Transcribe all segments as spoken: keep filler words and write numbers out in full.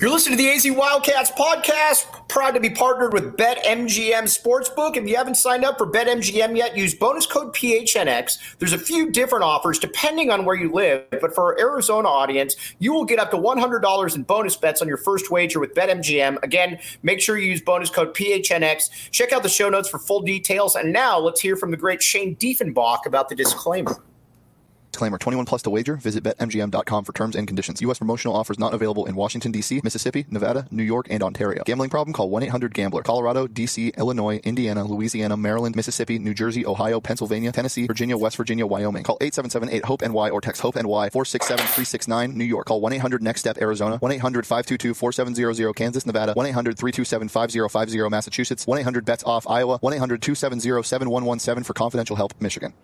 You're listening to the A Z Wildcats podcast. Proud to be partnered with BetMGM Sportsbook. If you haven't signed up for BetMGM yet, use bonus code P H N X. There's a few different offers depending on where you live, but for our Arizona audience, you will get up to one hundred dollars in bonus bets on your first wager with BetMGM. Again, make sure you use bonus code P H N X. Check out the show notes for full details. And now let's hear from the great Shane Diefenbach about the disclaimer. Disclaimer, twenty-one plus to wager. Visit Bet M G M dot com for terms and conditions. U S promotional offers not available in Washington, D C, Mississippi, Nevada, New York, and Ontario. Gambling problem? Call one eight hundred gambler. Colorado, D C, Illinois, Indiana, Louisiana, Maryland, Mississippi, New Jersey, Ohio, Pennsylvania, Tennessee, Virginia, West Virginia, Wyoming. Call eight seven seven eight hope N Y or text HOPE-NY four six seven three six nine. New York. Call one eight hundred next step Arizona. one eight hundred five two two four seven zero zero. Kansas, Nevada. one eight hundred three two seven five zero five zero. Massachusetts. one eight hundred bets off Iowa. one eight hundred two seven zero seven one one seven for confidential help, Michigan.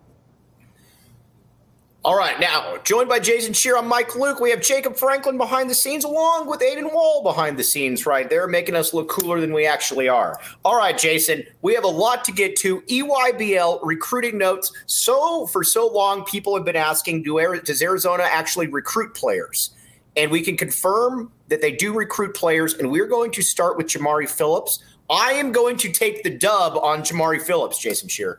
All right, now, joined by Jason Scheer, I'm Mike Luke. We have Jacob Franklin behind the scenes, along with Aiden Wall behind the scenes right there, making us look cooler than we actually are. All right, Jason, we have a lot to get to. E Y B L recruiting notes. So, for so long, people have been asking, do, does Arizona actually recruit players? And we can confirm that they do recruit players, and we're going to start with Jamari Phillips. I am going to take the dub on Jamari Phillips, Jason Scheer.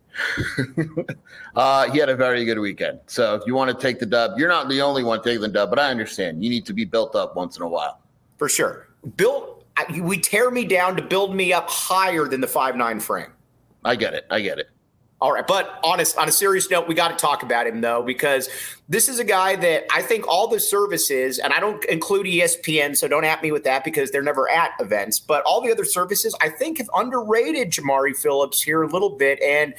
uh, he had a very good weekend. So if you want to take the dub, you're not the only one taking the dub, but I understand. You need to be built up once in a while. For sure. Built, we tear me down to build me up higher than the five nine frame. I get it. I get it. All right. But honest, on a serious note, we got to talk about him, though, because this is a guy that I think all the services, and I don't include E S P N, so don't at me with that because they're never at events, but all the other services, I think, have underrated Jamari Phillips here a little bit. And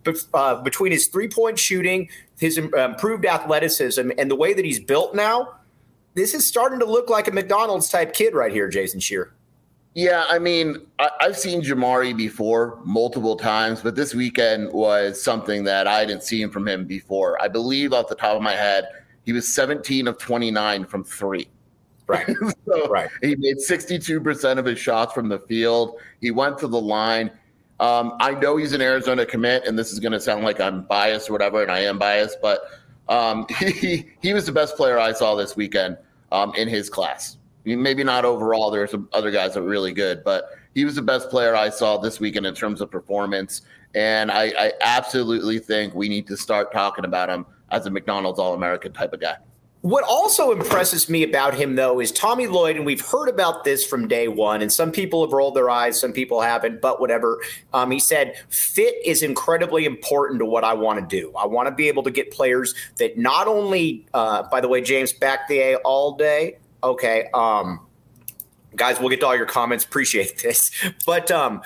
uh, between his three-point shooting, his improved athleticism, and the way that he's built now, this is starting to look like a McDonald's-type kid right here, Jason Scheer. Yeah, I mean, I, I've seen Jamari before multiple times, but this weekend was something that I hadn't seen from him before. I believe off the top of my head, he was seventeen of twenty-nine from three. Right. so right. He made sixty-two percent of his shots from the field. He went to the line. Um, I know he's an Arizona commit, and this is going to sound like I'm biased or whatever, and I am biased, but um, he, he was the best player I saw this weekend um, in his class. Maybe not overall. There are some other guys that were really good, but he was the best player I saw this weekend in terms of performance. And I, I absolutely think we need to start talking about him as a McDonald's All-American type of guy. What also impresses me about him, though, is Tommy Lloyd, and we've heard about this from day one, and some people have rolled their eyes, some people haven't, but whatever. Um, he said, fit is incredibly important to what I want to do. I want to be able to get players that not only, uh, by the way, James, back the A all day. Okay. Um, guys, we'll get to all your comments. Appreciate this. But um,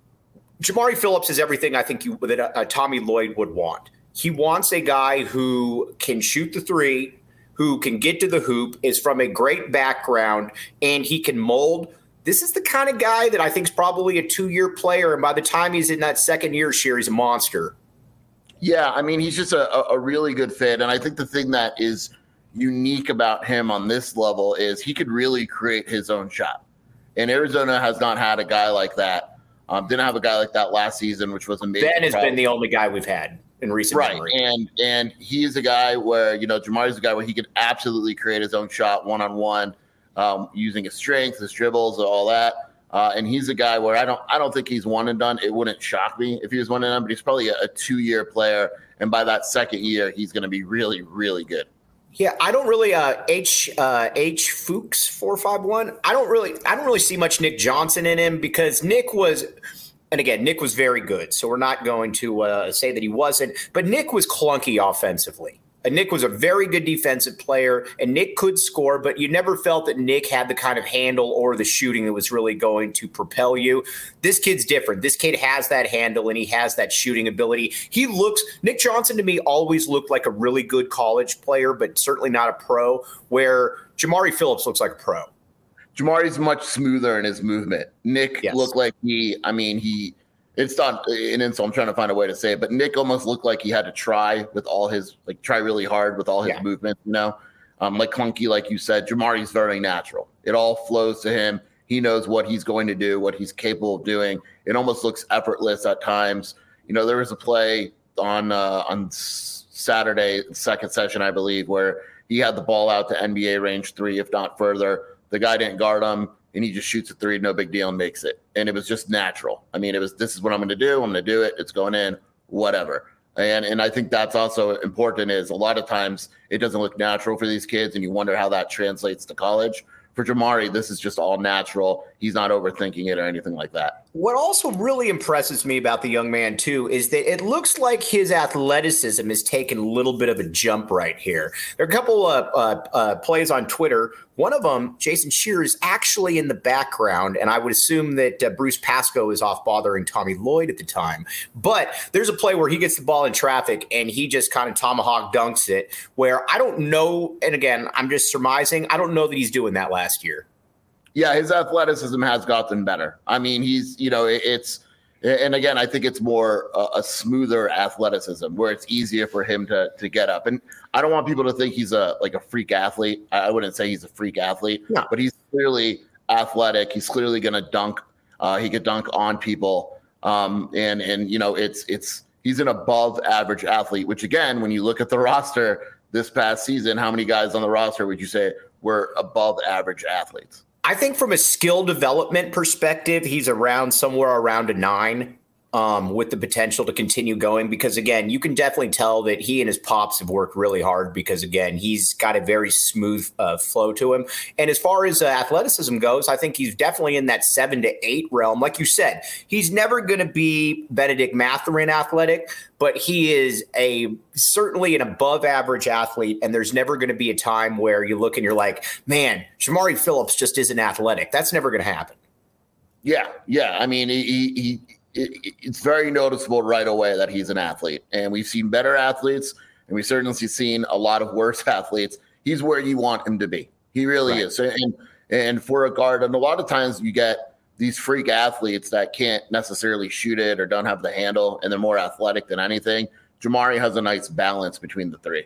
Jamari Phillips is everything I think you, that uh, Tommy Lloyd would want. He wants a guy who can shoot the three, who can get to the hoop, is from a great background, and he can mold. This is the kind of guy that I think is probably a two-year player, and by the time he's in that second year, Scheer, he's a monster. Yeah, I mean, he's just a, a really good fit, and I think the thing that is – unique about him on this level is he could really create his own shot. And Arizona has not had a guy like that. Um, didn't have a guy like that last season, which was amazing. Ben has problem. been the only guy we've had in recent right. memory. And and he's a guy where, you know, Jamari's a guy where he could absolutely create his own shot one-on-one, um, using his strength, his dribbles, all that. Uh, and he's a guy where I don't I don't think he's one and done. It wouldn't shock me if he was one and done, but he's probably a, a two-year player. And by that second year, he's going to be really, really good. Yeah, I don't really uh, H uh, H Fuchs four five one. I don't really I don't really see much Nick Johnson in him because Nick was, and again, Nick was very good. So we're not going to uh, say that he wasn't, but Nick was clunky offensively. And Nick was a very good defensive player, and Nick could score, but you never felt that Nick had the kind of handle or the shooting that was really going to propel you. This kid's different. This kid has that handle, and he has that shooting ability. He looks – Nick Johnson to me always looked like a really good college player, but certainly not a pro, where Jamari Phillips looks like a pro. Jamari's much smoother in his movement. Nick yes. looked like he – I mean, he – it's not an insult. I'm trying to find a way to say it, but Nick almost looked like he had to try with all his, like try really hard with all his yeah. movement, you know, um, like clunky, like you said. Jamari's very natural. It all flows to him. He knows what he's going to do, what he's capable of doing. It almost looks effortless at times. You know, there was a play on uh, on Saturday, second session, I believe, where he had the ball out to N B A range three, if not further, The guy didn't guard him, and he just shoots a three, no big deal, and makes it. And it was just natural. I mean, it was, this is what I'm going to do. I'm going to do it. It's going in, whatever. And and I think that's also important, is a lot of times it doesn't look natural for these kids, and you wonder how that translates to college. For Jamari, this is just all natural. He's not overthinking it or anything like that. What also really impresses me about the young man, too, is that it looks like his athleticism has taken a little bit of a jump right here. There are a couple of uh, uh, plays on Twitter. One of them, Jason Shearer, is actually in the background, and I would assume that uh, Bruce Pascoe is off bothering Tommy Lloyd at the time. But there's a play where he gets the ball in traffic, and he just kind of tomahawk dunks it, where I don't know, and again, I'm just surmising, I don't know that he's doing that last year. Yeah, his athleticism has gotten better. I mean, he's, you know, it, it's, and again, I think it's more a, a smoother athleticism where it's easier for him to to get up. And I don't want people to think he's a like a freak athlete. I, I wouldn't say he's a freak athlete, no. But he's clearly athletic. He's clearly going to dunk. Uh, he could dunk on people. Um, and and you know, it's it's he's an above average athlete. Which again, when you look at the roster this past season, how many guys on the roster would you say were above average athletes? I think from a skill development perspective, he's around somewhere around a nine um, with the potential to continue going because, again, you can definitely tell that he and his pops have worked really hard because, again, he's got a very smooth uh, flow to him. And as far as uh, athleticism goes, I think he's definitely in that seven to eight realm. Like you said, he's never going to be Benedict Mathurin athletic, but he is a certainly an above average athlete. And there's never going to be a time where you look and you're like, man, Jamari Phillips just isn't athletic. That's never going to happen. Yeah. Yeah. I mean, he, he, it, it's very noticeable right away that he's an athlete, and we've seen better athletes, and we've certainly seen a lot of worse athletes. He's where you want him to be. He really right. is. And, and for a guard, and a lot of times you get these freak athletes that can't necessarily shoot it or don't have the handle, and they're more athletic than anything. Jamari has a nice balance between the three.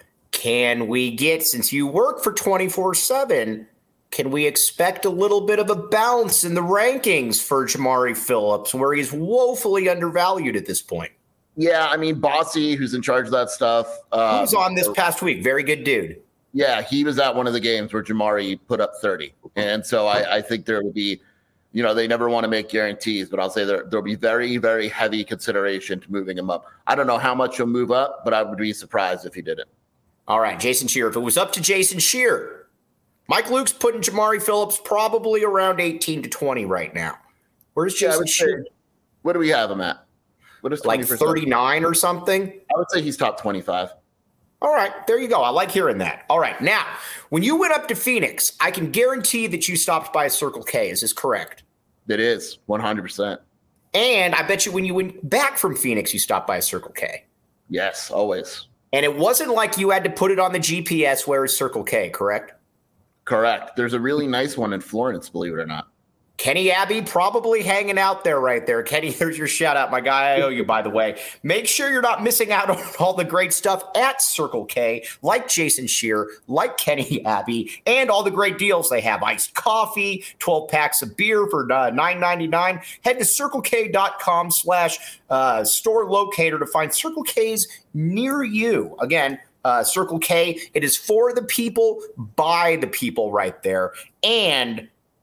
Can we get, since you work for twenty-four seven, can we expect a little bit of a bounce in the rankings for Jamari Phillips, where he's woefully undervalued at this point? Yeah, I mean, Bossy, who's in charge of that stuff. Uh, he was on this past week. Very good dude. Yeah, he was at one of the games where Jamari put up thirty. And so I, I think there will be, you know, they never want to make guarantees, but I'll say there there'll be very, very heavy consideration to moving him up. I don't know how much he'll move up, but I would be surprised if he didn't. All right, Jason Shearer. If it was up to Jason Shearer, Mike Luke's putting Jamari Phillips probably around eighteen to twenty right now. Where's Jason yeah, Shearer? Say, what do we have him at? What is like thirty-nine or something? I would say he's top twenty-five. All right, there you go. I like hearing that. All right, now, when you went up to Phoenix, I can guarantee that you stopped by a Circle K. Is this correct? It is, one hundred percent. And I bet you when you went back from Phoenix, you stopped by a Circle K. Yes, always. And it wasn't like you had to put it on the G P S where is Circle K, correct? Correct. There's a really nice one in Florence, believe it or not. Kenny Abbey probably hanging out there right there. Kenny, there's your shout out, my guy. I owe you, by the way. Make sure you're not missing out on all the great stuff at Circle K, like Jason Shearer, like Kenny Abbey, and all the great deals they have. Iced coffee, twelve packs of beer for uh, nine ninety-nine. Head to circlek.com slash uh, store locator to find Circle K's near you. Again, Uh, Circle K, it is for the people, by the people right there. And,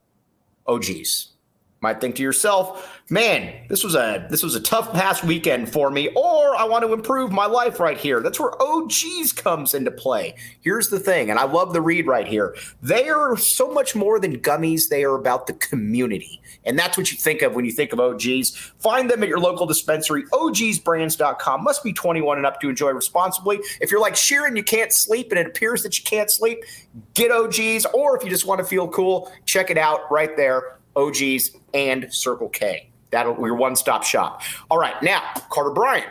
oh, geez, might think to yourself, man, this was a this was a tough past weekend for me, or I want to improve my life right here. That's where O Gs comes into play. Here's the thing, and I love the read right here. They are so much more than gummies. They are about the community. And that's what you think of when you think of O Gs. Find them at your local dispensary, O Gs brands dot com. Must be twenty-one and up to enjoy responsibly. If you're like Sheeran, you can't sleep, and it appears that you can't sleep, get O Gs. Or if you just want to feel cool, check it out right there, O Gs and Circle K. That'll be your one-stop shop. All right, now, Carter Bryant,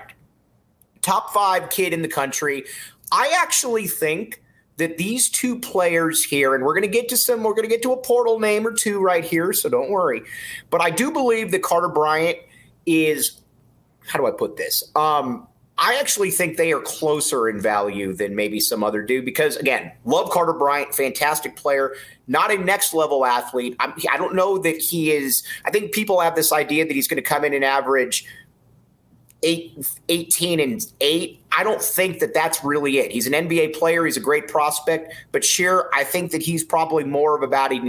top five kid in the country. I actually think that these two players here, and we're going to get to some, we're going to get to a portal name or two right here, so don't worry. But I do believe that Carter Bryant is, how do I put this? Um, I actually think they are closer in value than maybe some other do because, again, love Carter Bryant, fantastic player, not a next-level athlete. I'm, I don't know that he is – I think people have this idea that he's going to come in and average eight, eighteen and eight. I don't think that that's really it. He's an N B A player. He's a great prospect. But Sheer, I think that he's probably more of about an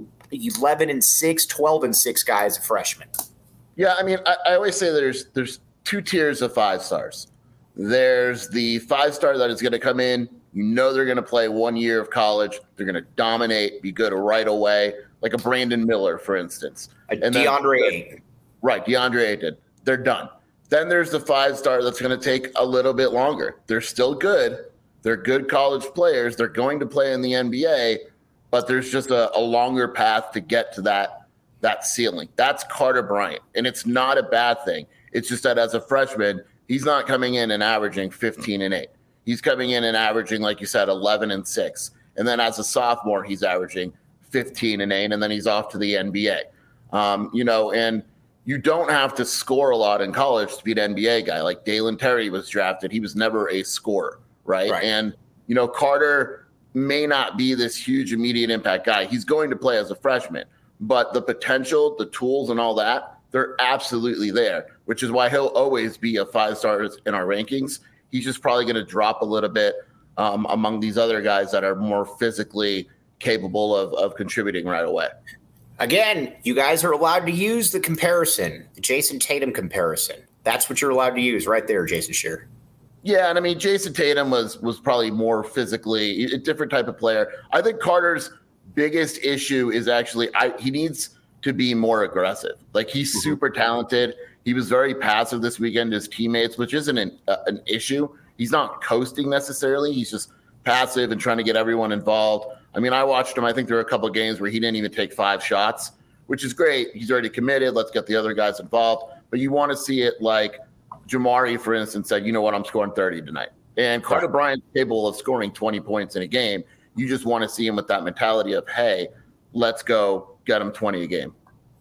eleven and six, twelve and six guy as a freshman. Yeah, I mean, I, I always say there's there's two tiers of five stars. There's the five star that is going to come in. You know they're going to play one year of college. They're going to dominate, be good right away, like a Brandon Miller, for instance. A and DeAndre then, Ayton. Right, DeAndre Ayton. They're done. Then there's the five star that's going to take a little bit longer. They're still good. They're good college players. They're going to play in the N B A, but there's just a, a longer path to get to that, that ceiling. That's Carter Bryant, and it's not a bad thing. It's just that as a freshman, he's not coming in and averaging fifteen and eight. He's coming in and averaging, like you said, eleven and six. And then as a sophomore, he's averaging fifteen and eight, and then he's off to the N B A. Um, you know, and you don't have to score a lot in college to be an N B A guy. Like Dalen Terry was drafted. He was never a scorer, right? right? And, you know, Carter may not be this huge immediate impact guy. He's going to play as a freshman. But the potential, the tools, and all that, they're absolutely there, which is why he'll always be a five-star in our rankings. He's just probably going to drop a little bit um, among these other guys that are more physically capable of, of contributing right away. Again, you guys are allowed to use the comparison, the Jason Tatum comparison. That's what you're allowed to use right there, Jason Shearer. Yeah, and I mean, Jason Tatum was was probably more physically a different type of player. I think Carter's biggest issue is actually I, he needs to be more aggressive. Like, he's mm-hmm. super talented. He was very passive this weekend to his teammates, which isn't an, uh, an issue. He's not coasting necessarily. He's just passive and trying to get everyone involved. I mean, I watched him. I think there were a couple of games where he didn't even take five shots, which is great. He's already committed. Let's get the other guys involved. But you want to see it like Jamari, for instance, said, you know what, I'm scoring thirty tonight. And Carter Bryant's capable of scoring twenty points in a game. You just want to see him with that mentality of, hey, let's go get him twenty a game.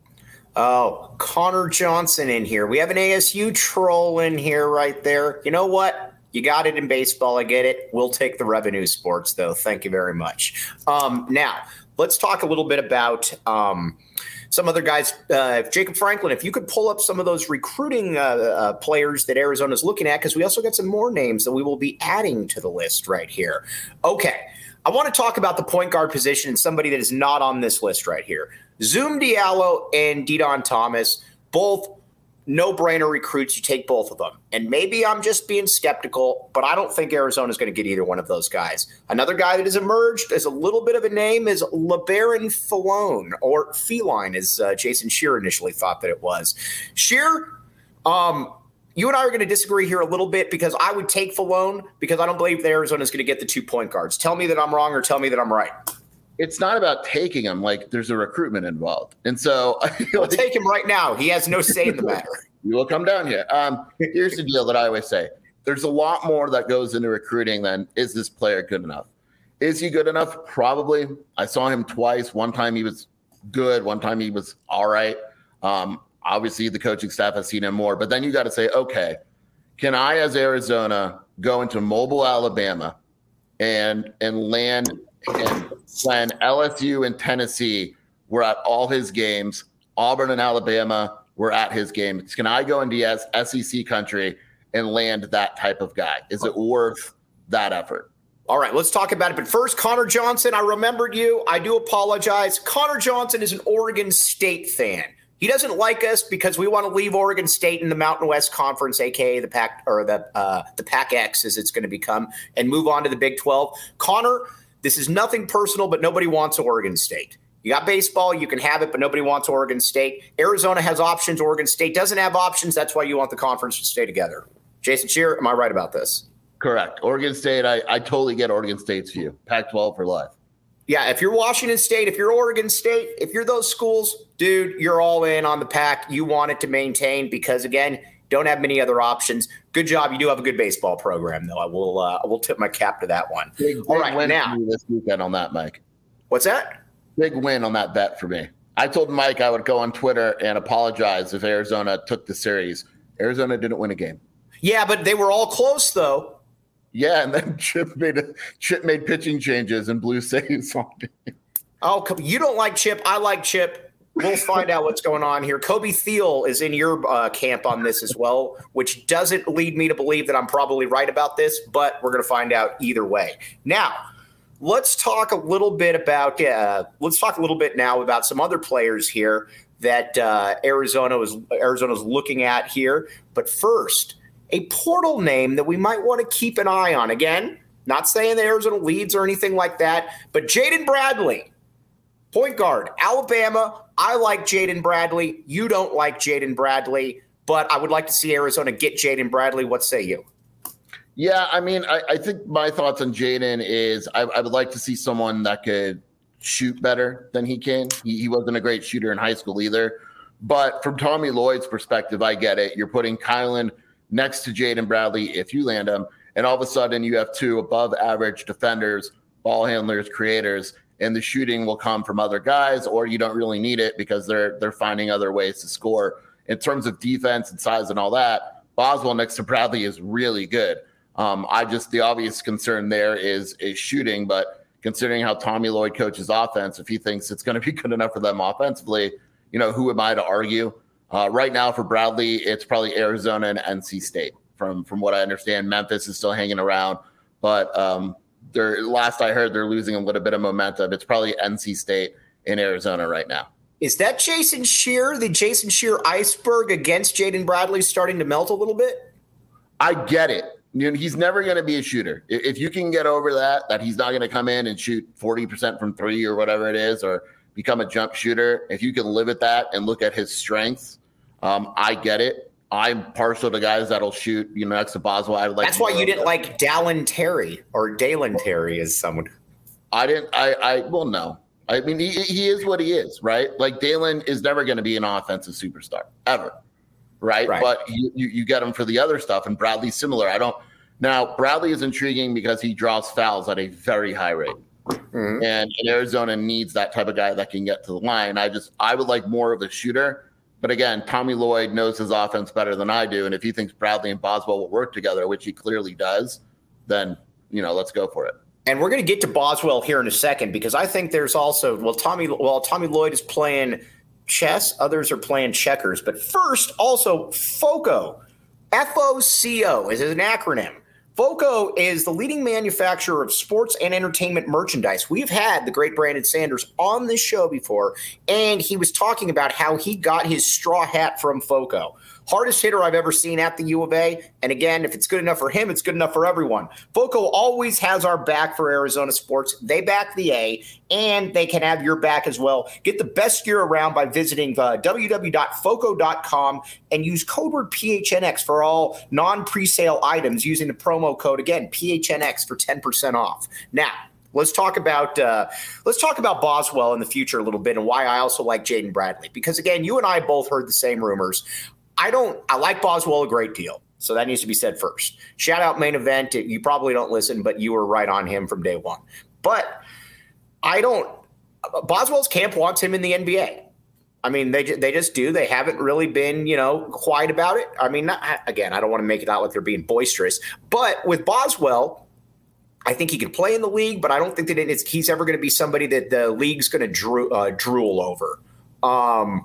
Oh, Connor Johnson in here. We have an A S U troll in here right there. You know what? You got it in baseball. I get it. We'll take the revenue sports, though. Thank you very much. Um, now, let's talk a little bit about um, some other guys. Uh, Jacob Franklin, if you could pull up some of those recruiting uh, uh, players that Arizona's looking at, because we also got some more names that we will be adding to the list right here. Okay. I want to talk about the point guard position and somebody that is not on this list right here. Zoom Diallo and Didon Thomas, both no-brainer recruits. You take both of them. And maybe I'm just being skeptical, but I don't think Arizona's going to get either one of those guys. Another guy that has emerged as a little bit of a name is LeBaron Filone, or Feline, as uh, Jason Shearer initially thought that it was. Shearer, um, you and I are going to disagree here a little bit, because I would take Filone because I don't believe that Arizona is going to get the two point guards. Tell me that I'm wrong or tell me that I'm right. It's not about taking him. Like, there's a recruitment involved. And so I feel I'll like, take him right now. He has no say in the matter. You will come down here. Um, here's the deal that I always say. There's a lot more that goes into recruiting than, is this player good enough? Is he good enough? Probably. I saw him twice. One time he was good. One time he was all right. Um, obviously, the coaching staff has seen him more. But then you got to say, okay, can I, as Arizona, go into Mobile, Alabama, and and land and when L S U and Tennessee were at all his games, Auburn and Alabama were at his games. Can I go into S E C country and land that type of guy? Is it worth that effort? All right, let's talk about it. But first, Connor Johnson, I remembered you. I do apologize. Connor Johnson is an Oregon State fan. He doesn't like us because we want to leave Oregon State in the Mountain West Conference, aka the Pac or the uh, the Pac X, as it's going to become, and move on to the Big twelve. Connor, this is nothing personal, but nobody wants Oregon State. You got baseball, you can have it, but nobody wants Oregon State. Arizona has options. Oregon State doesn't have options. That's why you want the conference to stay together. Jason Shearer, am I right about this? Correct. Oregon State, I, I totally get Oregon State's view. Pac twelve for life. Yeah, if you're Washington State, if you're Oregon State, if you're those schools, dude, you're all in on the Pac. You want it to maintain because, again, don't have many other options. Good job. You do have a good baseball program, though. I will uh, I will tip my cap to that one. Big, all big right, win now. This weekend on that, Mike. What's that? Big win on that bet for me. I told Mike I would go on Twitter and apologize if Arizona took the series. Arizona didn't win a game. Yeah, but they were all close, though. Yeah, and then Chip made a, Chip made pitching changes and blew saves on it. Oh, you don't like Chip. I like Chip. we'll find out what's going on here. Kobe Thiel is in your uh, camp on this as well, which doesn't lead me to believe that I'm probably right about this, but we're going to find out either way. Now, let's talk a little bit about uh, let's talk a little bit now about some other players here that uh, Arizona was Arizona's looking at here. But first, a portal name that we might want to keep an eye on. Again, not saying that Arizona leads or anything like that, but Jaden Bradley, point guard, Alabama. I like Jaden Bradley. You don't like Jaden Bradley, but I would like to see Arizona get Jaden Bradley. What say you? Yeah, I mean, I, I think my thoughts on Jaden is I, I would like to see someone that could shoot better than he can. He, he wasn't a great shooter in high school either. But from Tommy Lloyd's perspective, I get it. You're putting Kylan next to Jaden Bradley if you land him, and all of a sudden you have two above average defenders, ball handlers, creators, and the shooting will come from other guys, or you don't really need it because they're they're finding other ways to score. In terms of defense and size and all that, Boswell next to Bradley is really good. Um, I just the obvious concern there is is shooting, but considering how Tommy Lloyd coaches offense, if he thinks it's going to be good enough for them offensively, you know, who am I to argue? Uh, right now for Bradley, it's probably Arizona and N C State. From from what I understand, Memphis is still hanging around, but um, they're last I heard they're losing a little bit of momentum. It's probably N C State in Arizona right now. Is that Jason Shear, the Jason Shear iceberg against Jaden Bradley, starting to melt a little bit? I get it. You know, he's never going to be a shooter. If you can get over that, that he's not going to come in and shoot forty percent from three or whatever it is, or become a jump shooter, if you can live at that and look at his strengths, um, I get it. I'm partial to guys that'll shoot, you know, next to Boswell. I would like. That's why you didn't like Dallin Terry or Dalen Terry as someone. I didn't. I. I. Well, no. I mean, he he is what he is, right? Like Dalen is never going to be an offensive superstar ever, right? right. But you, you you get him for the other stuff, and Bradley's similar. I don't. Now Bradley is intriguing because he draws fouls at a very high rate. Mm-hmm. And, and Arizona needs that type of guy that can get to the line. I just I would like more of a shooter. But again, Tommy Lloyd knows his offense better than I do. And if he thinks Bradley and Boswell will work together, which he clearly does, then, you know, let's go for it. And we're going to get to Boswell here in a second, because I think there's also, well, Tommy, well, Tommy Lloyd is playing chess. Others are playing checkers. But first, also FOCO, F O C O is an acronym. FOCO is the leading manufacturer of sports and entertainment merchandise. We've had the great Brandon Sanders on this show before, and he was talking about how he got his straw hat from FOCO. Hardest hitter I've ever seen at the U of A. And again, if it's good enough for him, it's good enough for everyone. FOCO always has our back for Arizona sports. They back the A, and they can have your back as well. Get the best gear around by visiting uh, w w w dot foco dot com and use code word P H N X for all non-presale items using the promo code, again, P H N X for ten percent off. Now, Let's talk about uh, let's talk about Boswell in the future a little bit, and why I also like Jaden Bradley. Because again, you and I both heard the same rumors. I don't. I like Boswell a great deal, so that needs to be said first. Shout out Main Event. You probably don't listen, but you were right on him from day one. But I don't. Boswell's camp wants him in the N B A. I mean, they they just do. They haven't really been, you know, quiet about it. I mean, not, again, I don't want to make it out like they're being boisterous, but with Boswell, I think he can play in the league, but I don't think that it's, he's ever going to be somebody that the league's going to drool, uh, drool over. Um,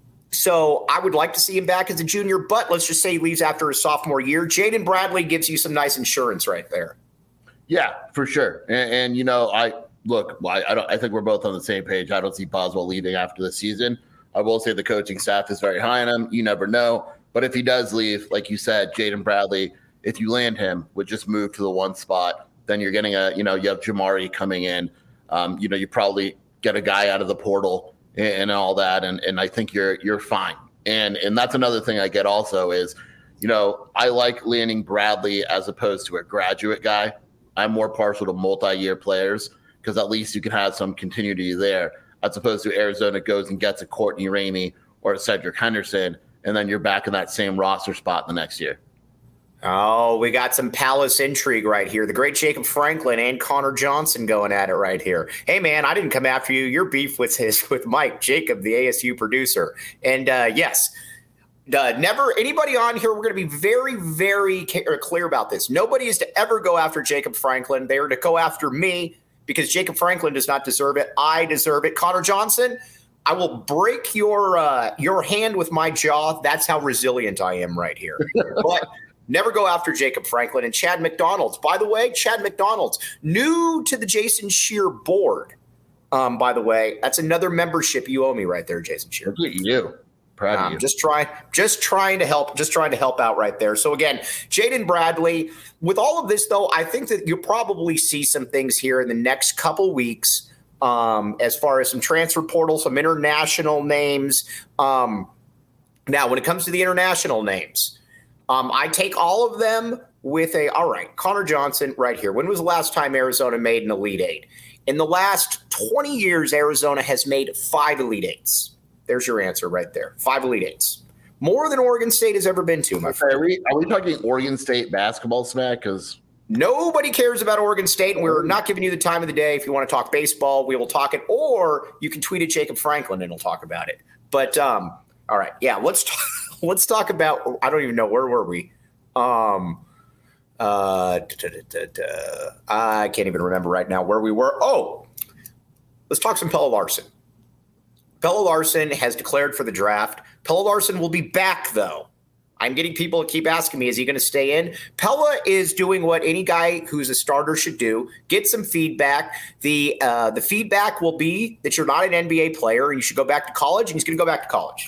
so I would like to see him back as a junior, but let's just say he leaves after his sophomore year. Jaden Bradley gives you some nice insurance right there. Yeah, for sure. And, and you know, I look, I, I don't. I think we're both on the same page. I don't see Boswell leaving after the season. I will say the coaching staff is very high on him. You never know. But if he does leave, like you said, Jaden Bradley, if you land him, would just move to the one spot. Then you're getting a, you know, you have Jamari coming in. Um, you know, you probably get a guy out of the portal and, and all that. And and I think you're you're fine. And and that's another thing I get also is, you know, I like landing Bradley as opposed to a graduate guy. I'm more partial to multi-year players because at least you can have some continuity there, as opposed to Arizona goes and gets a Courtney Ramey or a Cedric Henderson, and then you're back in that same roster spot the next year. Oh, we got some Palace intrigue right here. The great Jacob Franklin and Connor Johnson going at it right here. Hey, man, I didn't come after you. Your beef with his with Mike Jacob, the A S U producer. And uh, yes, uh, never anybody on here. We're going to be very, very clear about this. Nobody is to ever go after Jacob Franklin. They are to go after me because Jacob Franklin does not deserve it. I deserve it. Connor Johnson, I will break your uh, your hand with my jaw. That's how resilient I am right here. But never go after Jacob Franklin and Chad McDonald's. By the way, Chad McDonald's, new to the Jason Scheer board. Um, by the way, that's another membership you owe me right there, Jason Scheer. Look at you. Proud of um, you. Just trying, just trying to help, just trying to help out right there. So again, Jaden Bradley. With all of this, though, I think that you'll probably see some things here in the next couple weeks. Um, as far as some transfer portal, some international names. Um, now, when it comes to the international names, um, I take all of them with a, all right, Connor Johnson right here. When was the last time Arizona made an Elite Eight? In the last twenty years, Arizona has made five Elite Eights. There's your answer right there. Five Elite Eights. More than Oregon State has ever been to, my friend. Are we, are we talking Oregon State basketball smack? Because nobody cares about Oregon State, and we're not giving you the time of the day. If you want to talk baseball, we will talk it, or you can tweet at Jacob Franklin and he'll talk about it. But um, all right, yeah, let's talk, let's talk about. I don't even know where were we. Um, uh, da, da, da, da, I can't even remember right now where we were. Oh, let's talk some Pelle Larsson. Pelle Larsson has declared for the draft. Pelle Larsson will be back, though. I'm getting people to keep asking me, is he going to stay in? Pelle is doing what any guy who's a starter should do, get some feedback. The uh, the feedback will be that you're not an N B A player and you should go back to college, and he's going to go back to college.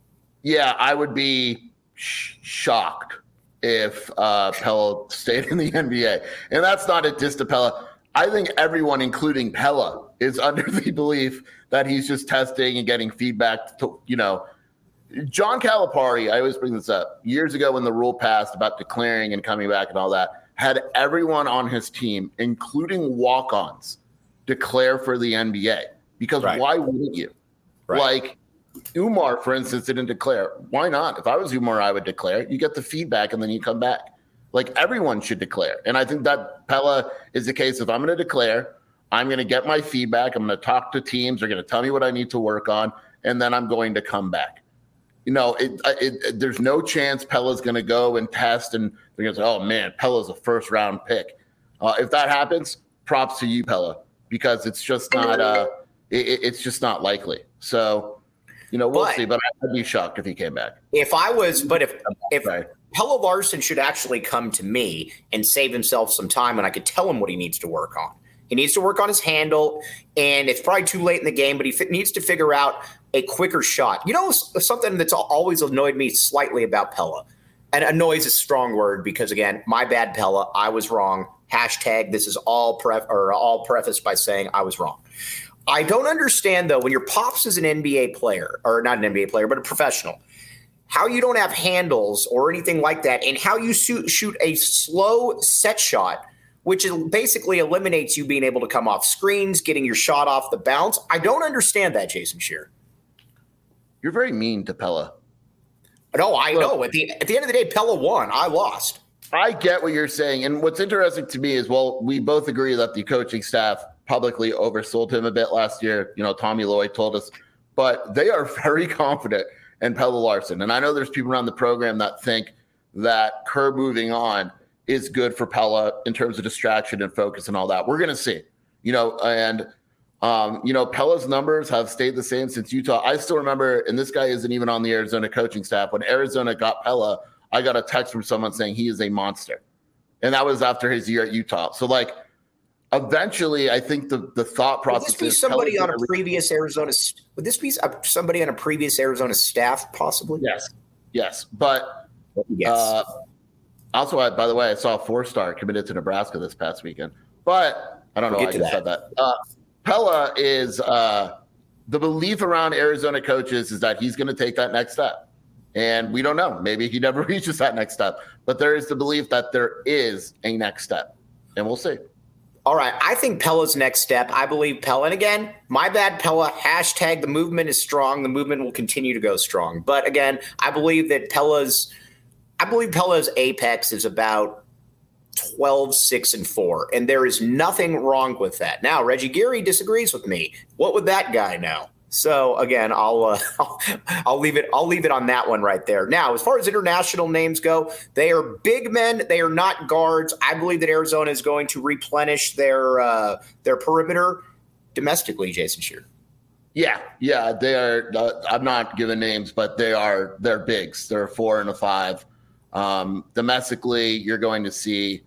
Yeah, I would be sh- shocked if uh, Pelle stayed in the N B A. And that's not a diss to Pelle. I think everyone, including Pelle, is under the belief that he's just testing and getting feedback to, you know, John Calipari, I always bring this up, years ago when the rule passed about declaring and coming back and all that, had everyone on his team, including walk-ons, declare for the N B A. Because right. Why wouldn't you? Right. Like Umar, for instance, didn't declare. Why not? If I was Umar, I would declare. You get the feedback and then you come back. Like everyone should declare. And I think that Pelle is the case. If I'm going to declare, I'm going to get my feedback. I'm going to talk to teams. They're going to tell me what I need to work on. And then I'm going to come back. You know, it, it, it, there's no chance Pelle's going to go and test and they're going to say, oh, man, Pelle's a first-round pick. Uh, if that happens, props to you, Pelle, because it's just not uh, it, it's just not likely. So, you know, we'll but, see. But I'd be shocked if he came back. If I was – but if if Pelle Larsson should actually come to me and save himself some time and I could tell him what he needs to work on. He needs to work on his handle, and it's probably too late in the game, but he f- needs to figure out a quicker shot. You know, something that's always annoyed me slightly about Pelle, and annoys is a strong word because, again, my bad, Pelle. I was wrong. Hashtag this is all pref- or all prefaced by saying I was wrong. I don't understand, though, when your pops is an N B A player, or not an N B A player, but a professional, how you don't have handles or anything like that, and how you shoot, shoot a slow set shot, which basically eliminates you being able to come off screens, getting your shot off the bounce. I don't understand that, Jason Scheer. You're very mean to Pelle. No, I Look, know. At the at the end of the day, Pelle won. I lost. I get what you're saying. And what's interesting to me is, well, we both agree that the coaching staff publicly oversold him a bit last year. You know, Tommy Lloyd told us. But they are very confident in Pelle Larsson. And I know there's people around the program that think that Kerr moving on is good for Pelle in terms of distraction and focus and all that. We're going to see, you know, and, um, you know, Pelle's numbers have stayed the same since Utah. I still remember, and this guy isn't even on the Arizona coaching staff. When Arizona got Pelle, I got a text from someone saying he is a monster. And that was after his year at Utah. So like, eventually I think the, the thought process would this be is somebody on a previous Arizona, would this be somebody on a previous Arizona staff possibly? Yes. Yes. But, yes. Uh, Also, I, by the way, I saw a four-star committed to Nebraska this past weekend. But I don't know we'll why I just that. said that. Uh, Pelle is uh, the belief around Arizona coaches is that he's going to take that next step. And we don't know. Maybe he never reaches that next step. But there is the belief that there is a next step. And we'll see. All right. I think Pelle's next step, I believe Pelle. And again, my bad, Pelle. Hashtag the movement is strong. The movement will continue to go strong. But again, I believe that Pelle's I believe Pelle's apex is about twelve, six, and four, and there is nothing wrong with that. Now, Reggie Geary disagrees with me. What would that guy know? So again, I'll, uh, I'll I'll leave it I'll leave it on that one right there. Now, as far as international names go, they are big men. They are not guards. I believe that Arizona is going to replenish their uh, their perimeter domestically. Jason Scheer. Yeah, yeah, they are. Uh, I'm not giving names, but they are. They're bigs. They're a four and a five. Um, domestically, you're going to see.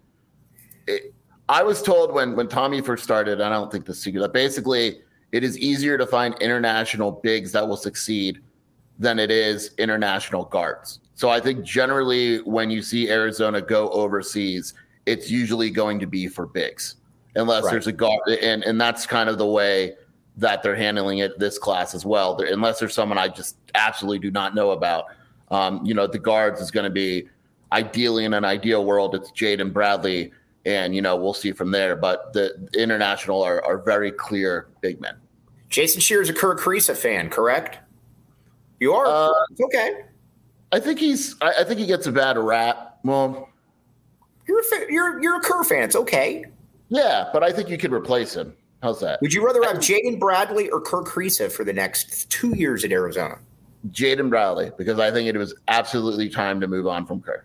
It, I was told when when Tommy first started, I don't think this is secret, that basically it is easier to find international bigs that will succeed than it is international guards. So I think generally when you see Arizona go overseas, it's usually going to be for bigs, unless right. there's a guard, and and that's kind of the way that they're handling it this class as well. They're, unless there's someone I just absolutely do not know about. Um, you know, the guards is going to be ideally in an ideal world, it's Jaden Bradley, and, you know, we'll see from there. But the, the international are, are very clear big men. Jason Scheer is a Kerr Kriisa fan, correct? You are? Uh, okay. I think he's, I, I think he gets a bad rap. Well, you're a, you're, you're a Kerr fan. It's okay. Yeah, but I think you could replace him. How's that? Would you rather have Jaden Bradley or Kerr Kriisa for the next two years at Arizona? Jaden Bradley, because I think it was absolutely time to move on from Kerr.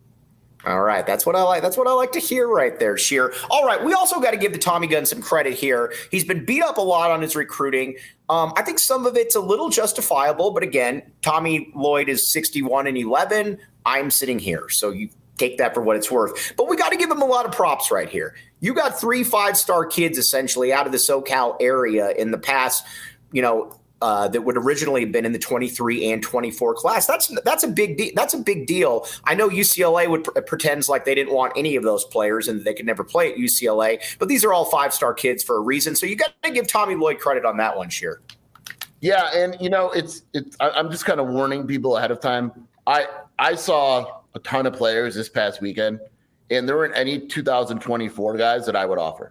All right, that's what I like. That's what I like to hear right there, Scheer. All right, we also got to give the Tommy Gun some credit here. He's been beat up a lot on his recruiting. Um, I think some of it's a little justifiable, but again, Tommy Lloyd is sixty-one and eleven. I'm sitting here, so you take that for what it's worth. But we got to give him a lot of props right here. You got three five-star kids essentially out of the SoCal area in the past, you know, uh, that would originally have been in the twenty-three and twenty-four class. That's that's a big deal. That's a big deal. I know U C L A would pr- pretends like they didn't want any of those players and they could never play at U C L A, but these are all five-star kids for a reason. So you got to give Tommy Lloyd credit on that one, Scheer. Yeah, and you know, it's it's. I'm just kind of warning people ahead of time. I I saw a ton of players this past weekend, and there weren't any two thousand twenty-four guys that I would offer.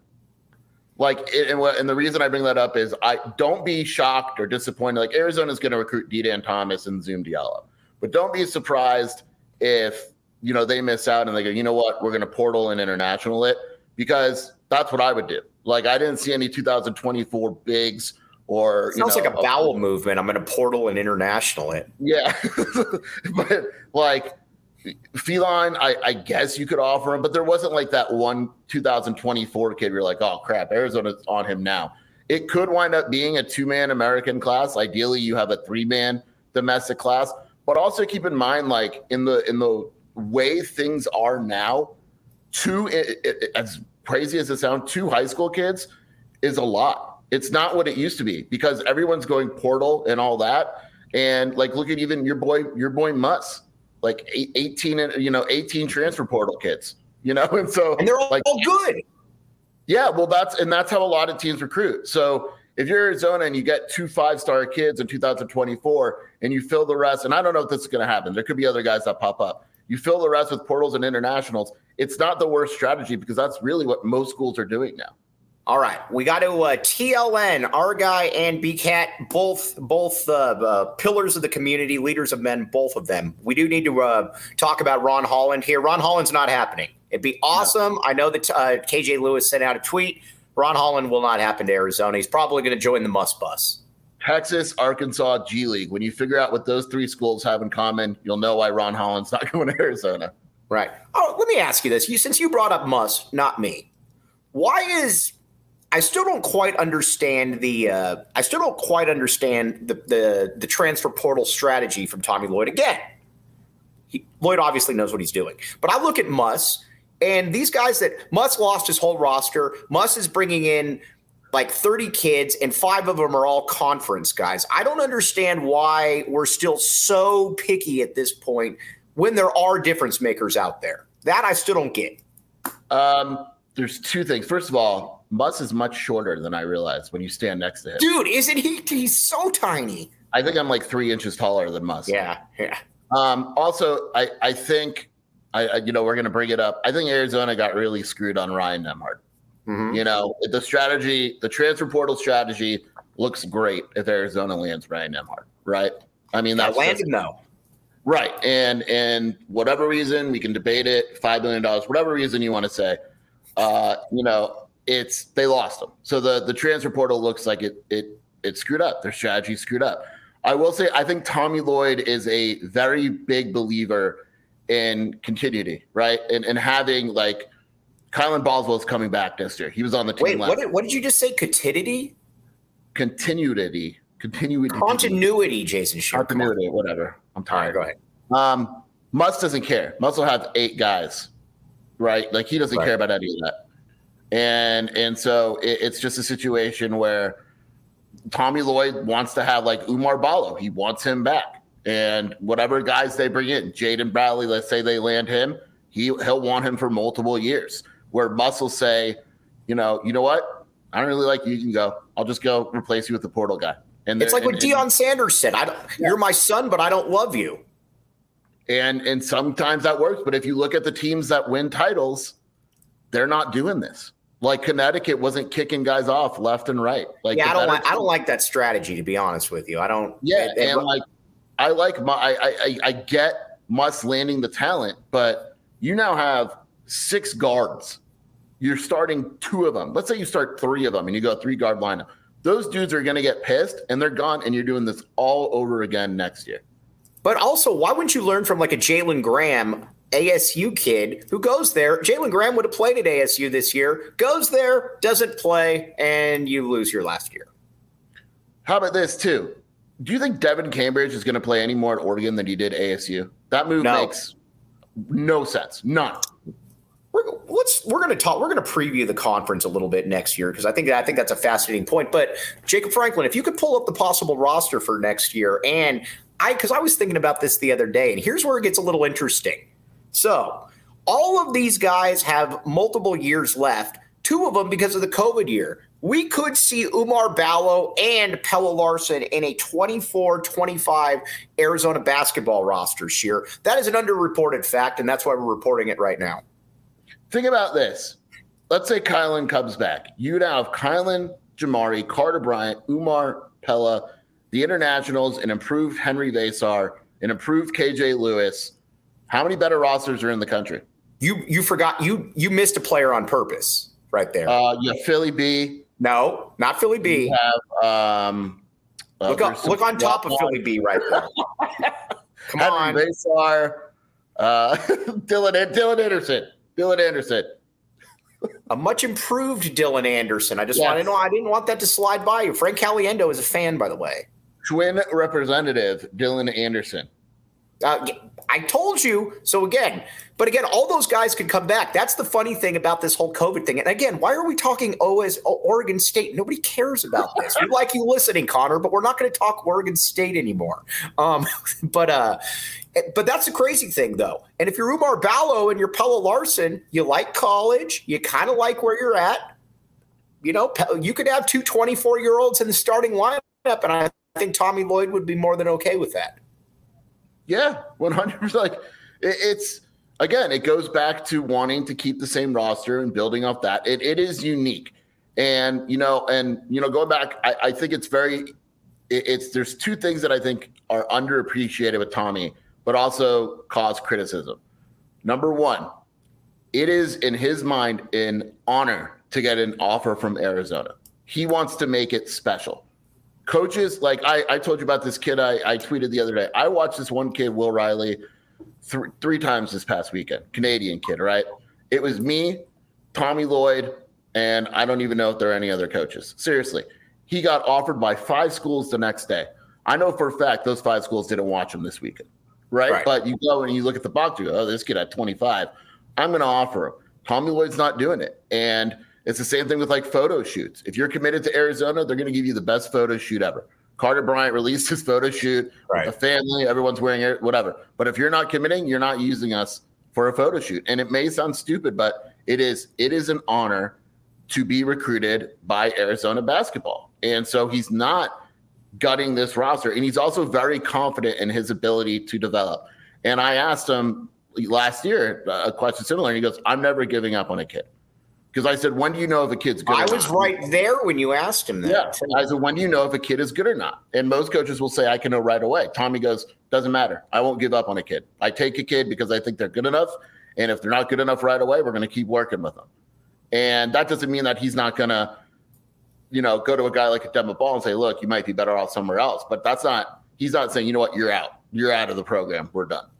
Like, and, and the reason I bring that up is I don't be shocked or disappointed. Like, Arizona's going to recruit D-Dan Thomas and Zoom Diallo, but don't be surprised if, you know, they miss out and they go, you know what, we're going to portal and international it, because that's what I would do. Like, I didn't see any two thousand twenty-four bigs or, you sounds know, like a bowel a, movement. I'm going to portal and international it. Yeah. But like, Feline, I, I guess you could offer him, but there wasn't like that one two thousand twenty-four kid where you're like, oh crap, Arizona's on him now. It could wind up being a two-man American class. Ideally, you have a three-man domestic class, but also keep in mind, like in the in the way things are now, two it, it, as crazy as it sounds, two high school kids is a lot. It's not what it used to be because everyone's going portal and all that. And like, look at even your boy, your boy Muss. Like eighteen, you know, eighteen transfer portal kids, you know, and so and they're all, like, all good. Yeah, well, that's and that's how a lot of teams recruit. So if you're Arizona and you get two five-star kids in two thousand twenty-four and you fill the rest, and I don't know if this is going to happen. There could be other guys that pop up. You fill the rest with portals and internationals. It's not the worst strategy because that's really what most schools are doing now. All right, we got to uh, T L N, our guy and B CAT, both both uh, uh, pillars of the community, leaders of men, both of them. We do need to uh, talk about Ron Holland here. Ron Holland's not happening. It'd be awesome. I know that uh, K J Lewis sent out a tweet. Ron Holland will not happen to Arizona. He's probably going to join the Muss Bus. Texas, Arkansas, G League. When you figure out what those three schools have in common, you'll know why Ron Holland's not going to Arizona. Right. Oh, let me ask you this. You, since you brought up Muss, not me, why is – I still don't quite understand the. Uh, I still don't quite understand the, the the transfer portal strategy from Tommy Lloyd. Again, he, Lloyd obviously knows what he's doing, but I look at Muss and these guys that Muss lost his whole roster. Muss is bringing in like thirty kids, and five of them are all conference guys. I don't understand why we're still so picky at this point when there are difference makers out there. That I still don't get. Um, there's two things. First of all, Muss is much shorter than I realized when you stand next to him. Dude, isn't he? He's so tiny. I think I'm like three inches taller than Muss. Yeah, yeah. Um, also, I, I think, I, I you know, we're going to bring it up. I think Arizona got really screwed on Ryan Nembhard. Mm-hmm. You know, the strategy, the transfer portal strategy looks great if Arizona lands Ryan Nembhard, right? I mean, that's yeah, landed though. Right. And, and whatever reason, we can debate it, five million dollars, whatever reason you want to say, uh, you know, it's they lost them. So the the transfer portal looks like it it it screwed up. Their strategy screwed up. I will say I think Tommy Lloyd is a very big believer in continuity, right? And and having like Kylan Boswell is coming back this year. He was on the team Wait, last what did, what did you just say? Continuity? Continuity. Continuity. Continuity, Jason Scheer. Continuity, whatever. I'm tired. All right, go ahead. Um, Muss doesn't care. Muss will have eight guys, right? Like he doesn't right. care about any of that. And and so it, it's just a situation where Tommy Lloyd wants to have like Umar Ballo. He wants him back. And whatever guys they bring in, Jaden Bradley, let's say they land him, he, he'll want him for multiple years. Where Muss will say, you know, you know what? I don't really like you. You can go. I'll just go replace you with the portal guy. And it's like and, what Deion and, Sanders said. I don't, yeah. You're my son, but I don't love you. And and sometimes that works. But if you look at the teams that win titles, they're not doing this. Like Connecticut wasn't kicking guys off left and right. Like yeah, I don't like. I don't like that strategy. To be honest with you, I don't. Yeah, it, and it, like I like my. I, I I get Muss landing the talent, but you now have six guards. You're starting two of them. Let's say you start three of them, and you go three guard lineup. Those dudes are going to get pissed, and they're gone, and you're doing this all over again next year. But also, why wouldn't you learn from like a Jalen Graham, A S U kid who goes there? Jalen Graham would have played at A S U this year, goes there, doesn't play, and you lose your last year. How about this, too? Do you think Devin Cambridge is going to play any more at Oregon than he did A S U? That move no. makes no sense. None. We're, let's we're going to talk. We're going to preview the conference a little bit next year because I think I think that's a fascinating point. But Jacob Franklin, if you could pull up the possible roster for next year, and I because I was thinking about this the other day, and here's where it gets a little interesting. So all of these guys have multiple years left. Two of them because of the COVID year. We could see Umar Ballo and Pelle Larsson in a twenty-four twenty-five Arizona basketball roster, Scheer. That is an underreported fact, and that's why we're reporting it right now. Think about this. Let's say Kylan comes back. You'd have Kylan, Jamari, Carter Bryant, Umar, Pella, the internationals, an improved Henry Vasar, an improved K J Lewis. How many better rosters are in the country? You you forgot you you missed a player on purpose right there. Uh, you have Philly B. No, not Philly B. You have um, uh, look up, look on top of Philly B right there. Come Henry on, Vasar, uh, Dylan Dylan Anderson. Dylan Anderson. A much improved Dylan Anderson. I just yes. want to know. I didn't want that to slide by you. Frank Caliendo is a fan, by the way. Twin representative Dylan Anderson. Uh, I told you. So again, but again, all those guys could come back. That's the funny thing about this whole COVID thing. And again, why are we talking O as Oregon State? Nobody cares about this. We like you listening, Connor, but we're not going to talk Oregon State anymore. Um, but uh, but that's the crazy thing, though. And if you're Umar Ballo and you're Pelle Larsson, you like college, you kind of like where you're at. You know, you could have two twenty-four-year-olds in the starting lineup, and I think Tommy Lloyd would be more than okay with that. Yeah, one hundred percent. Like it, it's again, it goes back to wanting to keep the same roster and building off that. It it is unique, and you know, and you know, going back, I, I think it's very. It, it's there's two things that I think are underappreciated with Tommy, but also cause criticism. Number one, it is in his mind an honor to get an offer from Arizona. He wants to make it special. Coaches, like I, I told you about this kid I, I tweeted the other day. I watched this one kid, Will Riley, th- three times this past weekend. Canadian kid, right? It was me, Tommy Lloyd, and I don't even know if there are any other coaches. Seriously. He got offered by five schools the next day. I know for a fact those five schools didn't watch him this weekend, right? right. But you go and you look at the box, you go, oh, this kid at twenty-five. I'm going to offer him. Tommy Lloyd's not doing it. And it's the same thing with like photo shoots. If you're committed to Arizona, they're going to give you the best photo shoot ever. Carter Bryant released his photo shoot right. with the family. Everyone's wearing it, whatever. But if you're not committing, you're not using us for a photo shoot. And it may sound stupid, but it is it is an honor to be recruited by Arizona basketball. And so he's not gutting this roster. And he's also very confident in his ability to develop. And I asked him last year a question similar, and he goes, I'm never giving up on a kid. Because I said, when do you know if a kid's good I or not? was right there when you asked him that. Yeah. I said, when do you know if a kid is good or not? And most coaches will say, I can know right away. Tommy goes, doesn't matter. I won't give up on a kid. I take a kid because I think they're good enough. And if they're not good enough right away, we're going to keep working with them. And that doesn't mean that he's not going to, you know, go to a guy like a Demba Ball and say, look, you might be better off somewhere else. But that's not, he's not saying, you know what, you're out. You're out of the program. We're done.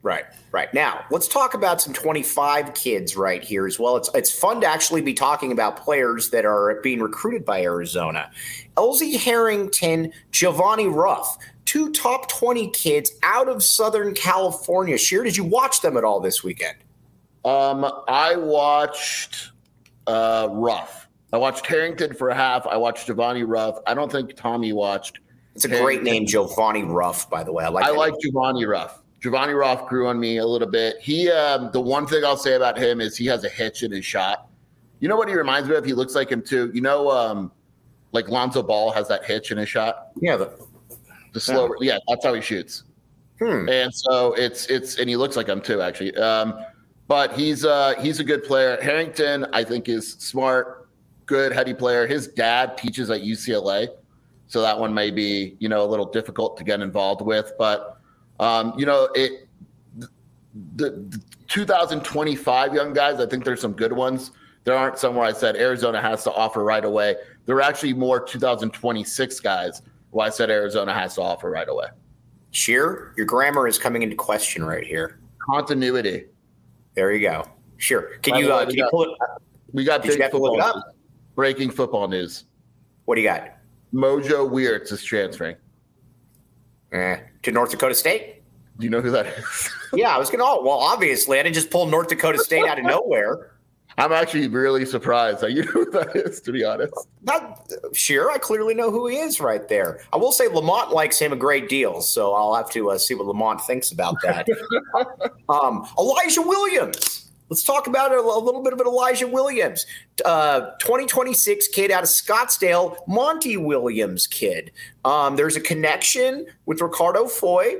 Right, right. Now, let's talk about some twenty-five kids right here as well. It's it's fun to actually be talking about players that are being recruited by Arizona. Elsie Harrington, Giovanni Ruff, two top twenty kids out of Southern California. Sheer, did you watch them at all this weekend? Um, I watched uh, Ruff. I watched Harrington for a half. I watched Giovanni Ruff. I don't think Tommy watched. It's a Harrington. Great name, Giovanni Ruff, by the way. I like I like Giovanni Ruff. Giovanni Ruff grew on me a little bit. He, um, the one thing I'll say about him is he has a hitch in his shot. You know what he reminds me of? He looks like him too. You know, um, like Lonzo Ball has that hitch in his shot. Yeah, the, the slow. Yeah. yeah, that's how he shoots. Hmm. And so it's it's and he looks like him too, actually. Um, but he's uh, he's a good player. Harrington, I think, is smart, good, heady player. His dad teaches at U C L A, so that one may be you know a little difficult to get involved with, but. Um, you know, it the, the two thousand twenty-five young guys, I think there's some good ones. There aren't some where I said Arizona has to offer right away. There are actually more two thousand twenty-six guys who I said Arizona has to offer right away. Sheer, your grammar is coming into question right here. Continuity. There you go. Sure. Can you, uh, can you pull it up? We got big football news. Breaking football news. What do you got? Mojo Weirtz is transferring. Eh, to North Dakota State? Do you know who that is? Yeah, I was going to, oh, well, obviously, I didn't just pull North Dakota State out of nowhere. I'm actually really surprised that you know who that is, to be honest. Not sure. I clearly know who he is right there. I will say Lamont likes him a great deal, so I'll have to uh, see what Lamont thinks about that. um, Elijah Williams. Let's talk about a, a little bit of an Elijah Williams, uh, twenty twenty-six kid out of Scottsdale, Monty Williams kid. Um, there's a connection with Ricardo Foy.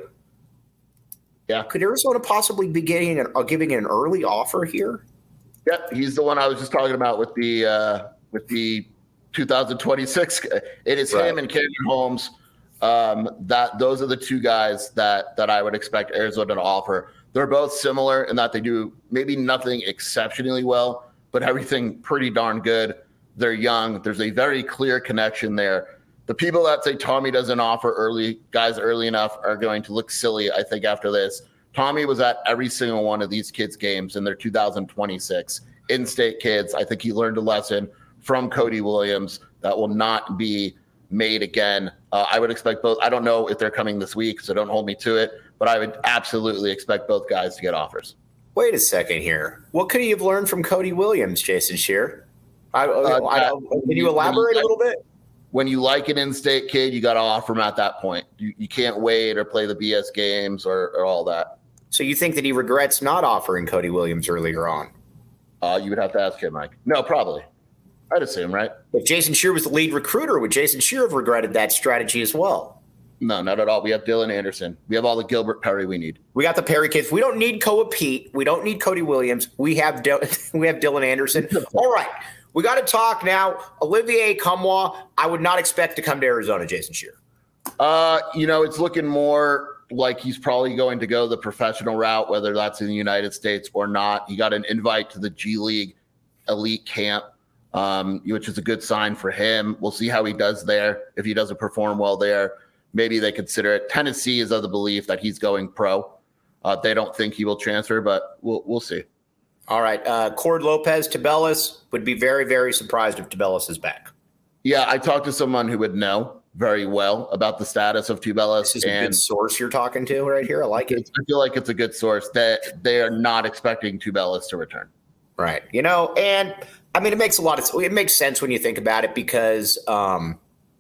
Yeah. Could Arizona possibly be getting an, uh, giving an early offer here? Yeah, he's the one I was just talking about with the uh, with the two thousand twenty-six. It is right. Him and Canyon Holmes. Um, that those are the two guys that that I would expect Arizona to offer. They're both similar in that they do maybe nothing exceptionally well, but everything pretty darn good. They're young. There's a very clear connection there. The people that say Tommy doesn't offer early guys early enough are going to look silly, I think, after this. Tommy was at every single one of these kids' games in their two thousand twenty-six in-state kids. I think he learned a lesson from Cody Williams that will not be made again. Uh, I would expect both. I don't know if they're coming this week, so don't hold me to it. But I would absolutely expect both guys to get offers. Wait a second here. What could he have learned from Cody Williams, Jason Shear? I, uh, I, can you elaborate a little bit? When you like an in-state kid, you got to offer him at that point. You, you can't wait or play the B S games or, or all that. So you think that he regrets not offering Cody Williams earlier on? Uh, you would have to ask him, Mike. No, probably. I'd assume, right? If Jason Shear was the lead recruiter, would Jason Shear have regretted that strategy as well? No, not at all. We have Dylan Anderson. We have all the Gilbert Perry we need. We got the Perry kids. We don't need Koa Pete. We don't need Cody Williams. We have Dil- we have Dylan Anderson. All right. We got to talk now. Olivier Nkamhoua, I would not expect to come to Arizona, Jason Shear. Uh, you know, it's looking more like he's probably going to go the professional route, whether that's in the United States or not. He got an invite to the G League elite camp, um, which is a good sign for him. We'll see how he does there. If he doesn't perform well there, maybe they consider it. Tennessee is of the belief that he's going pro. Uh, they don't think he will transfer, but we'll we'll see. All right. Uh, Cord Lopez, Tubelis, would be very, very surprised if Tubelis is back. Yeah, I talked to someone who would know very well about the status of Tubelis. This is and a good source you're talking to right here. I like it. I feel like it's a good source that they are not expecting Tubelis to return. Right. You know, and I mean, it makes a lot of it makes sense when you think about it because um,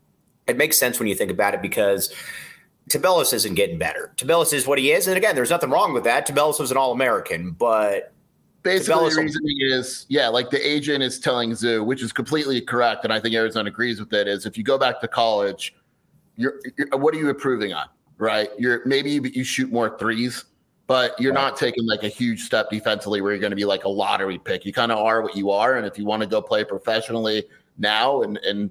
it makes sense when you think about it because Tubelis isn't getting better. Tubelis is what he is. And again, there's nothing wrong with that. Tubelis was an All-American, but basically the reasoning is, yeah, like the agent is telling Zoo, which is completely correct, and I think Arizona agrees with it, is if you go back to college, you're, you're what are you improving on, right? You're maybe you, you shoot more threes, but you're right. Not taking like a huge step defensively where you're going to be like a lottery pick. You kind of are what you are, and if you want to go play professionally now and and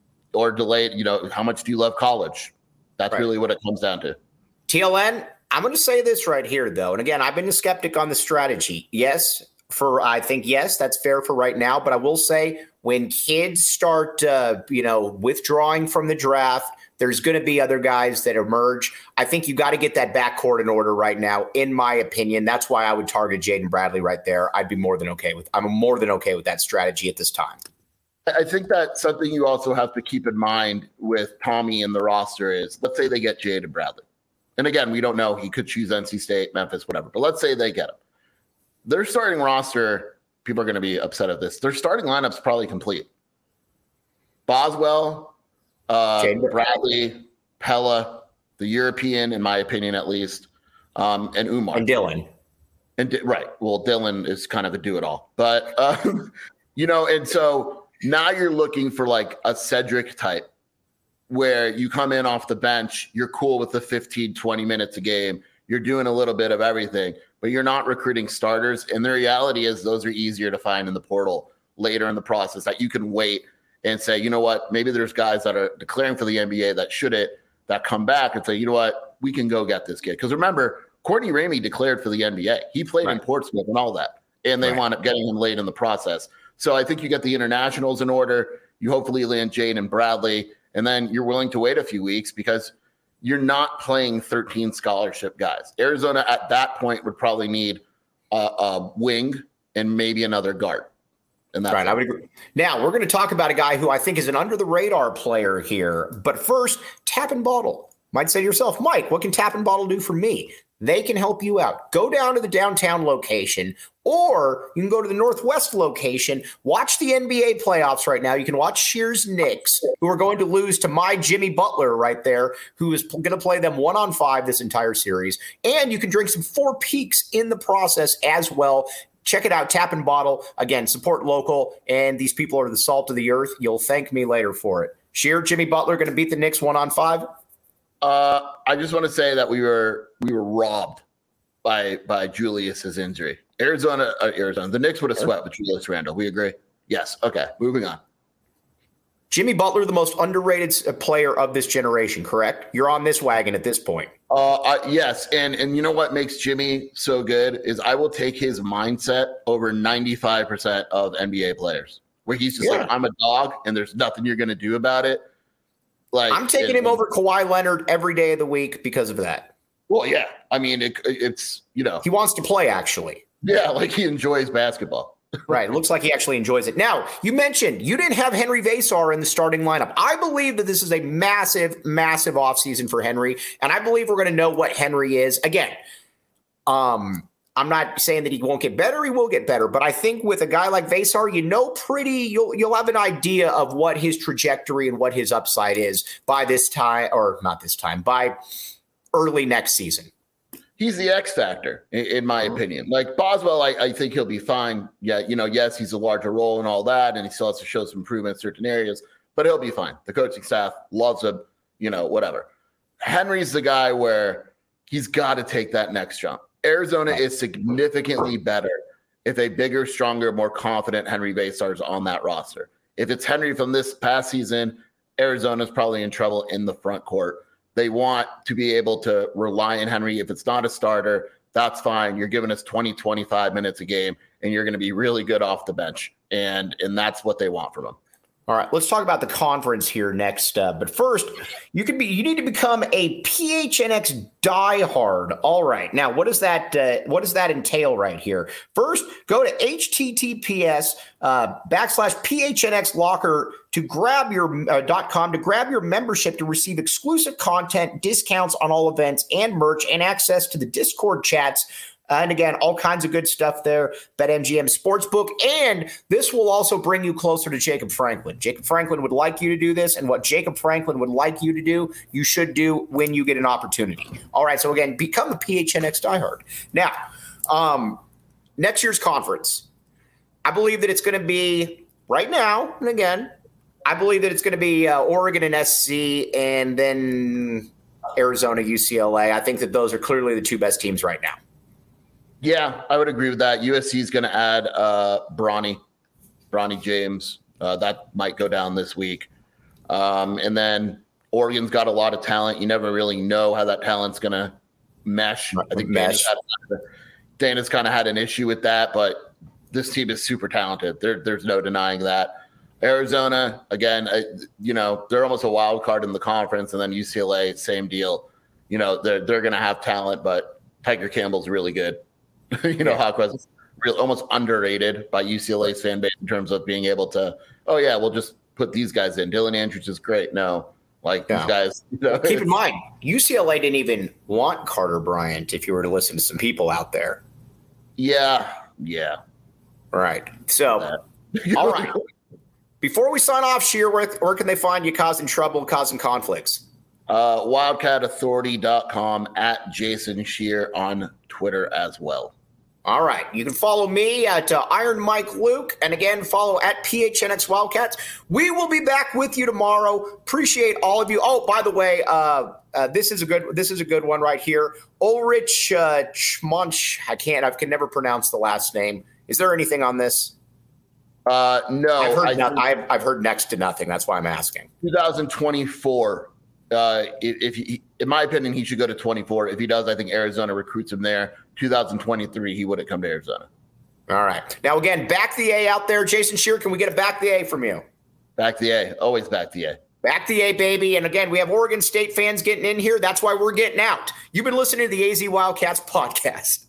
or delay, you know, how much do you love college? That's right. Really what it comes down to. T L N, I'm going to say this right here, though. And again, I've been a skeptic on the strategy. Yes, for I think, yes, that's fair for right now. But I will say when kids start, uh, you know, withdrawing from the draft, There's going to be other guys that emerge. I think you got to get that backcourt in order right now, in my opinion. That's why I would target Jaden Bradley right there. I'd be more than okay with. I'm more than okay with that strategy at this time. I think that's something you also have to keep in mind with Tommy and the roster is, let's say they get Jaden Bradley. And again, we don't know. He could choose N C State, Memphis, whatever. But let's say they get him. Their starting roster, people are going to be upset at this. Their starting lineup's probably complete. Boswell, uh, Bradley, Pella, the European, in my opinion, at least, um, and Umar. And Dylan. And right. Well, Dylan is kind of a do-it-all. But, um, you know, and so now you're looking for like a Cedric type where you come in off the bench, you're cool with the fifteen, twenty minutes a game. You're doing a little bit of everything, but you're not recruiting starters. And the reality is those are easier to find in the portal later in the process, that you can wait and say, you know what, maybe there's guys that are declaring for the N B A that shouldn't, that come back and say, you know what, we can go get this kid. Because remember, Courtney Ramey declared for the N B A. He played right. in Portsmouth and all that. And they right. wound up getting him late in the process. So I think you get the internationals in order. You hopefully land Jaden Bradley. And then you're willing to wait a few weeks because you're not playing thirteen scholarship guys. Arizona at that point would probably need a, a wing and maybe another guard. And that's right. I would agree. Now we're going to talk about a guy who I think is an under the radar player here. But first, Tap and Bottle. Might say to yourself, Mike, what can Tap and Bottle do for me? They can help you out. Go down to the downtown location, or you can go to the Northwest location. Watch the N B A playoffs right now. You can watch Shears Knicks, who are going to lose to my Jimmy Butler right there, who is going to play them one on five this entire series. And you can drink some Four Peaks in the process as well. Check it out, Tap and Bottle. Again, support local, and these people are the salt of the earth. You'll thank me later for it. Shear, Jimmy Butler going to beat the Knicks one on five? Uh, I just want to say that we were we were robbed by by Julius's injury. Arizona, uh, Arizona. The Knicks would have swept with Julius Randle. We agree? Yes. Okay. Moving on. Jimmy Butler, the most underrated player of this generation, correct? You're on this wagon at this point. Uh, uh, yes, and and you know what makes Jimmy so good is I will take his mindset over ninety-five percent of N B A players, where he's just yeah. like, I'm a dog, and there's nothing you're going to do about it. Like I'm taking it, him over Kawhi Leonard every day of the week because of that. Well, yeah. I mean, it, it's, you know. He wants to play, actually. Yeah, like he enjoys basketball. Right. It looks like he actually enjoys it. Now, you mentioned you didn't have Henry Vesar in the starting lineup. I believe that this is a massive, massive offseason for Henry, and I believe we're going to know what Henry is. Again, um, I'm not saying that he won't get better. He will get better. But I think with a guy like Vesar, you know, pretty, you'll you'll have an idea of what his trajectory and what his upside is by this time, or not this time, by early next season. He's the X factor, in, in my opinion. Like Boswell, I, I think he'll be fine. Yeah, you know, yes, he's a larger role and all that, and he still has to show some improvement in certain areas, but he'll be fine. The coaching staff loves him, you know, whatever. Henry's the guy where he's got to take that next jump. Arizona is significantly better if a bigger, stronger, more confident Henry Vesar is on that roster. If it's Henry from this past season, Arizona's probably in trouble in the front court. They want to be able to rely on Henry. If it's not a starter, that's fine. You're giving us twenty, twenty-five minutes a game, and you're going to be really good off the bench. And, and that's what they want from him. All right, let's talk about the conference here next. Uh, but first, you can be you need to become a P H N X diehard. All right, now what does that uh, what does that entail right here? First, go to https uh, backslash phnx locker to grab your uh, dot com to grab your membership to receive exclusive content, discounts on all events and merch, and access to the Discord chats. And again, all kinds of good stuff there. BetMGM Sportsbook. And this will also bring you closer to Jacob Franklin. Jacob Franklin would like you to do this. And what Jacob Franklin would like you to do, you should do when you get an opportunity. All right. So again, become a P H N X diehard. Now, um, next year's conference, I believe that it's going to be right now. And again, I believe that it's going to be uh, Oregon and S C and then Arizona, U C L A. I think that those are clearly the two best teams right now. Yeah, I would agree with that. U S C is going to add uh, Bronny, Bronny James. Uh, that might go down this week. Um, and then Oregon's got a lot of talent. You never really know how that talent's going to mesh. I think mesh. Dana's, Dana's kind of had an issue with that, but this team is super talented. There, there's no denying that. Arizona, again, uh, you know, they're almost a wild card in the conference, and then U C L A, same deal. You know, they're they're going to have talent, but Tiger Campbell's really good. you know, yeah. Hawkweat's real, almost underrated by U C L A's fan base in terms of being able to, oh, yeah, we'll just put these guys in. Dylan Andrews is great. No, like yeah. these guys. You know, keep in mind, U C L A didn't even want Carter Bryant if you were to listen to some people out there. Yeah, yeah. Right. So, all right. Before we sign off, Scheer, where, where can they find you causing trouble, causing conflicts? Uh, wildcat authority dot com, at Jason Scheer on Twitter as well. All right. You can follow me at uh, Iron Mike Luke. And again, follow at P H N X Wildcats. We will be back with you tomorrow. Appreciate all of you. Oh, by the way, uh, uh, this is a good this is a good one right here. Ulrich uh, Schmunch. I can't. I can never pronounce the last name. Is there anything on this? Uh, no, I've heard, I, no, I've, I've heard next to nothing. That's why I'm asking. twenty twenty-four. Uh, if, if he, in my opinion, he should go to twenty-four. If he does, I think Arizona recruits him there. two thousand twenty-three, he wouldn't come to Arizona. All right. Now, again, back the A out there. Jason Scheer, can we get a back the A from you? Back the A. Always back the A. Back the A, baby. And again, we have Oregon State fans getting in here. That's why we're getting out. You've been listening to the A Z Wildcats podcast.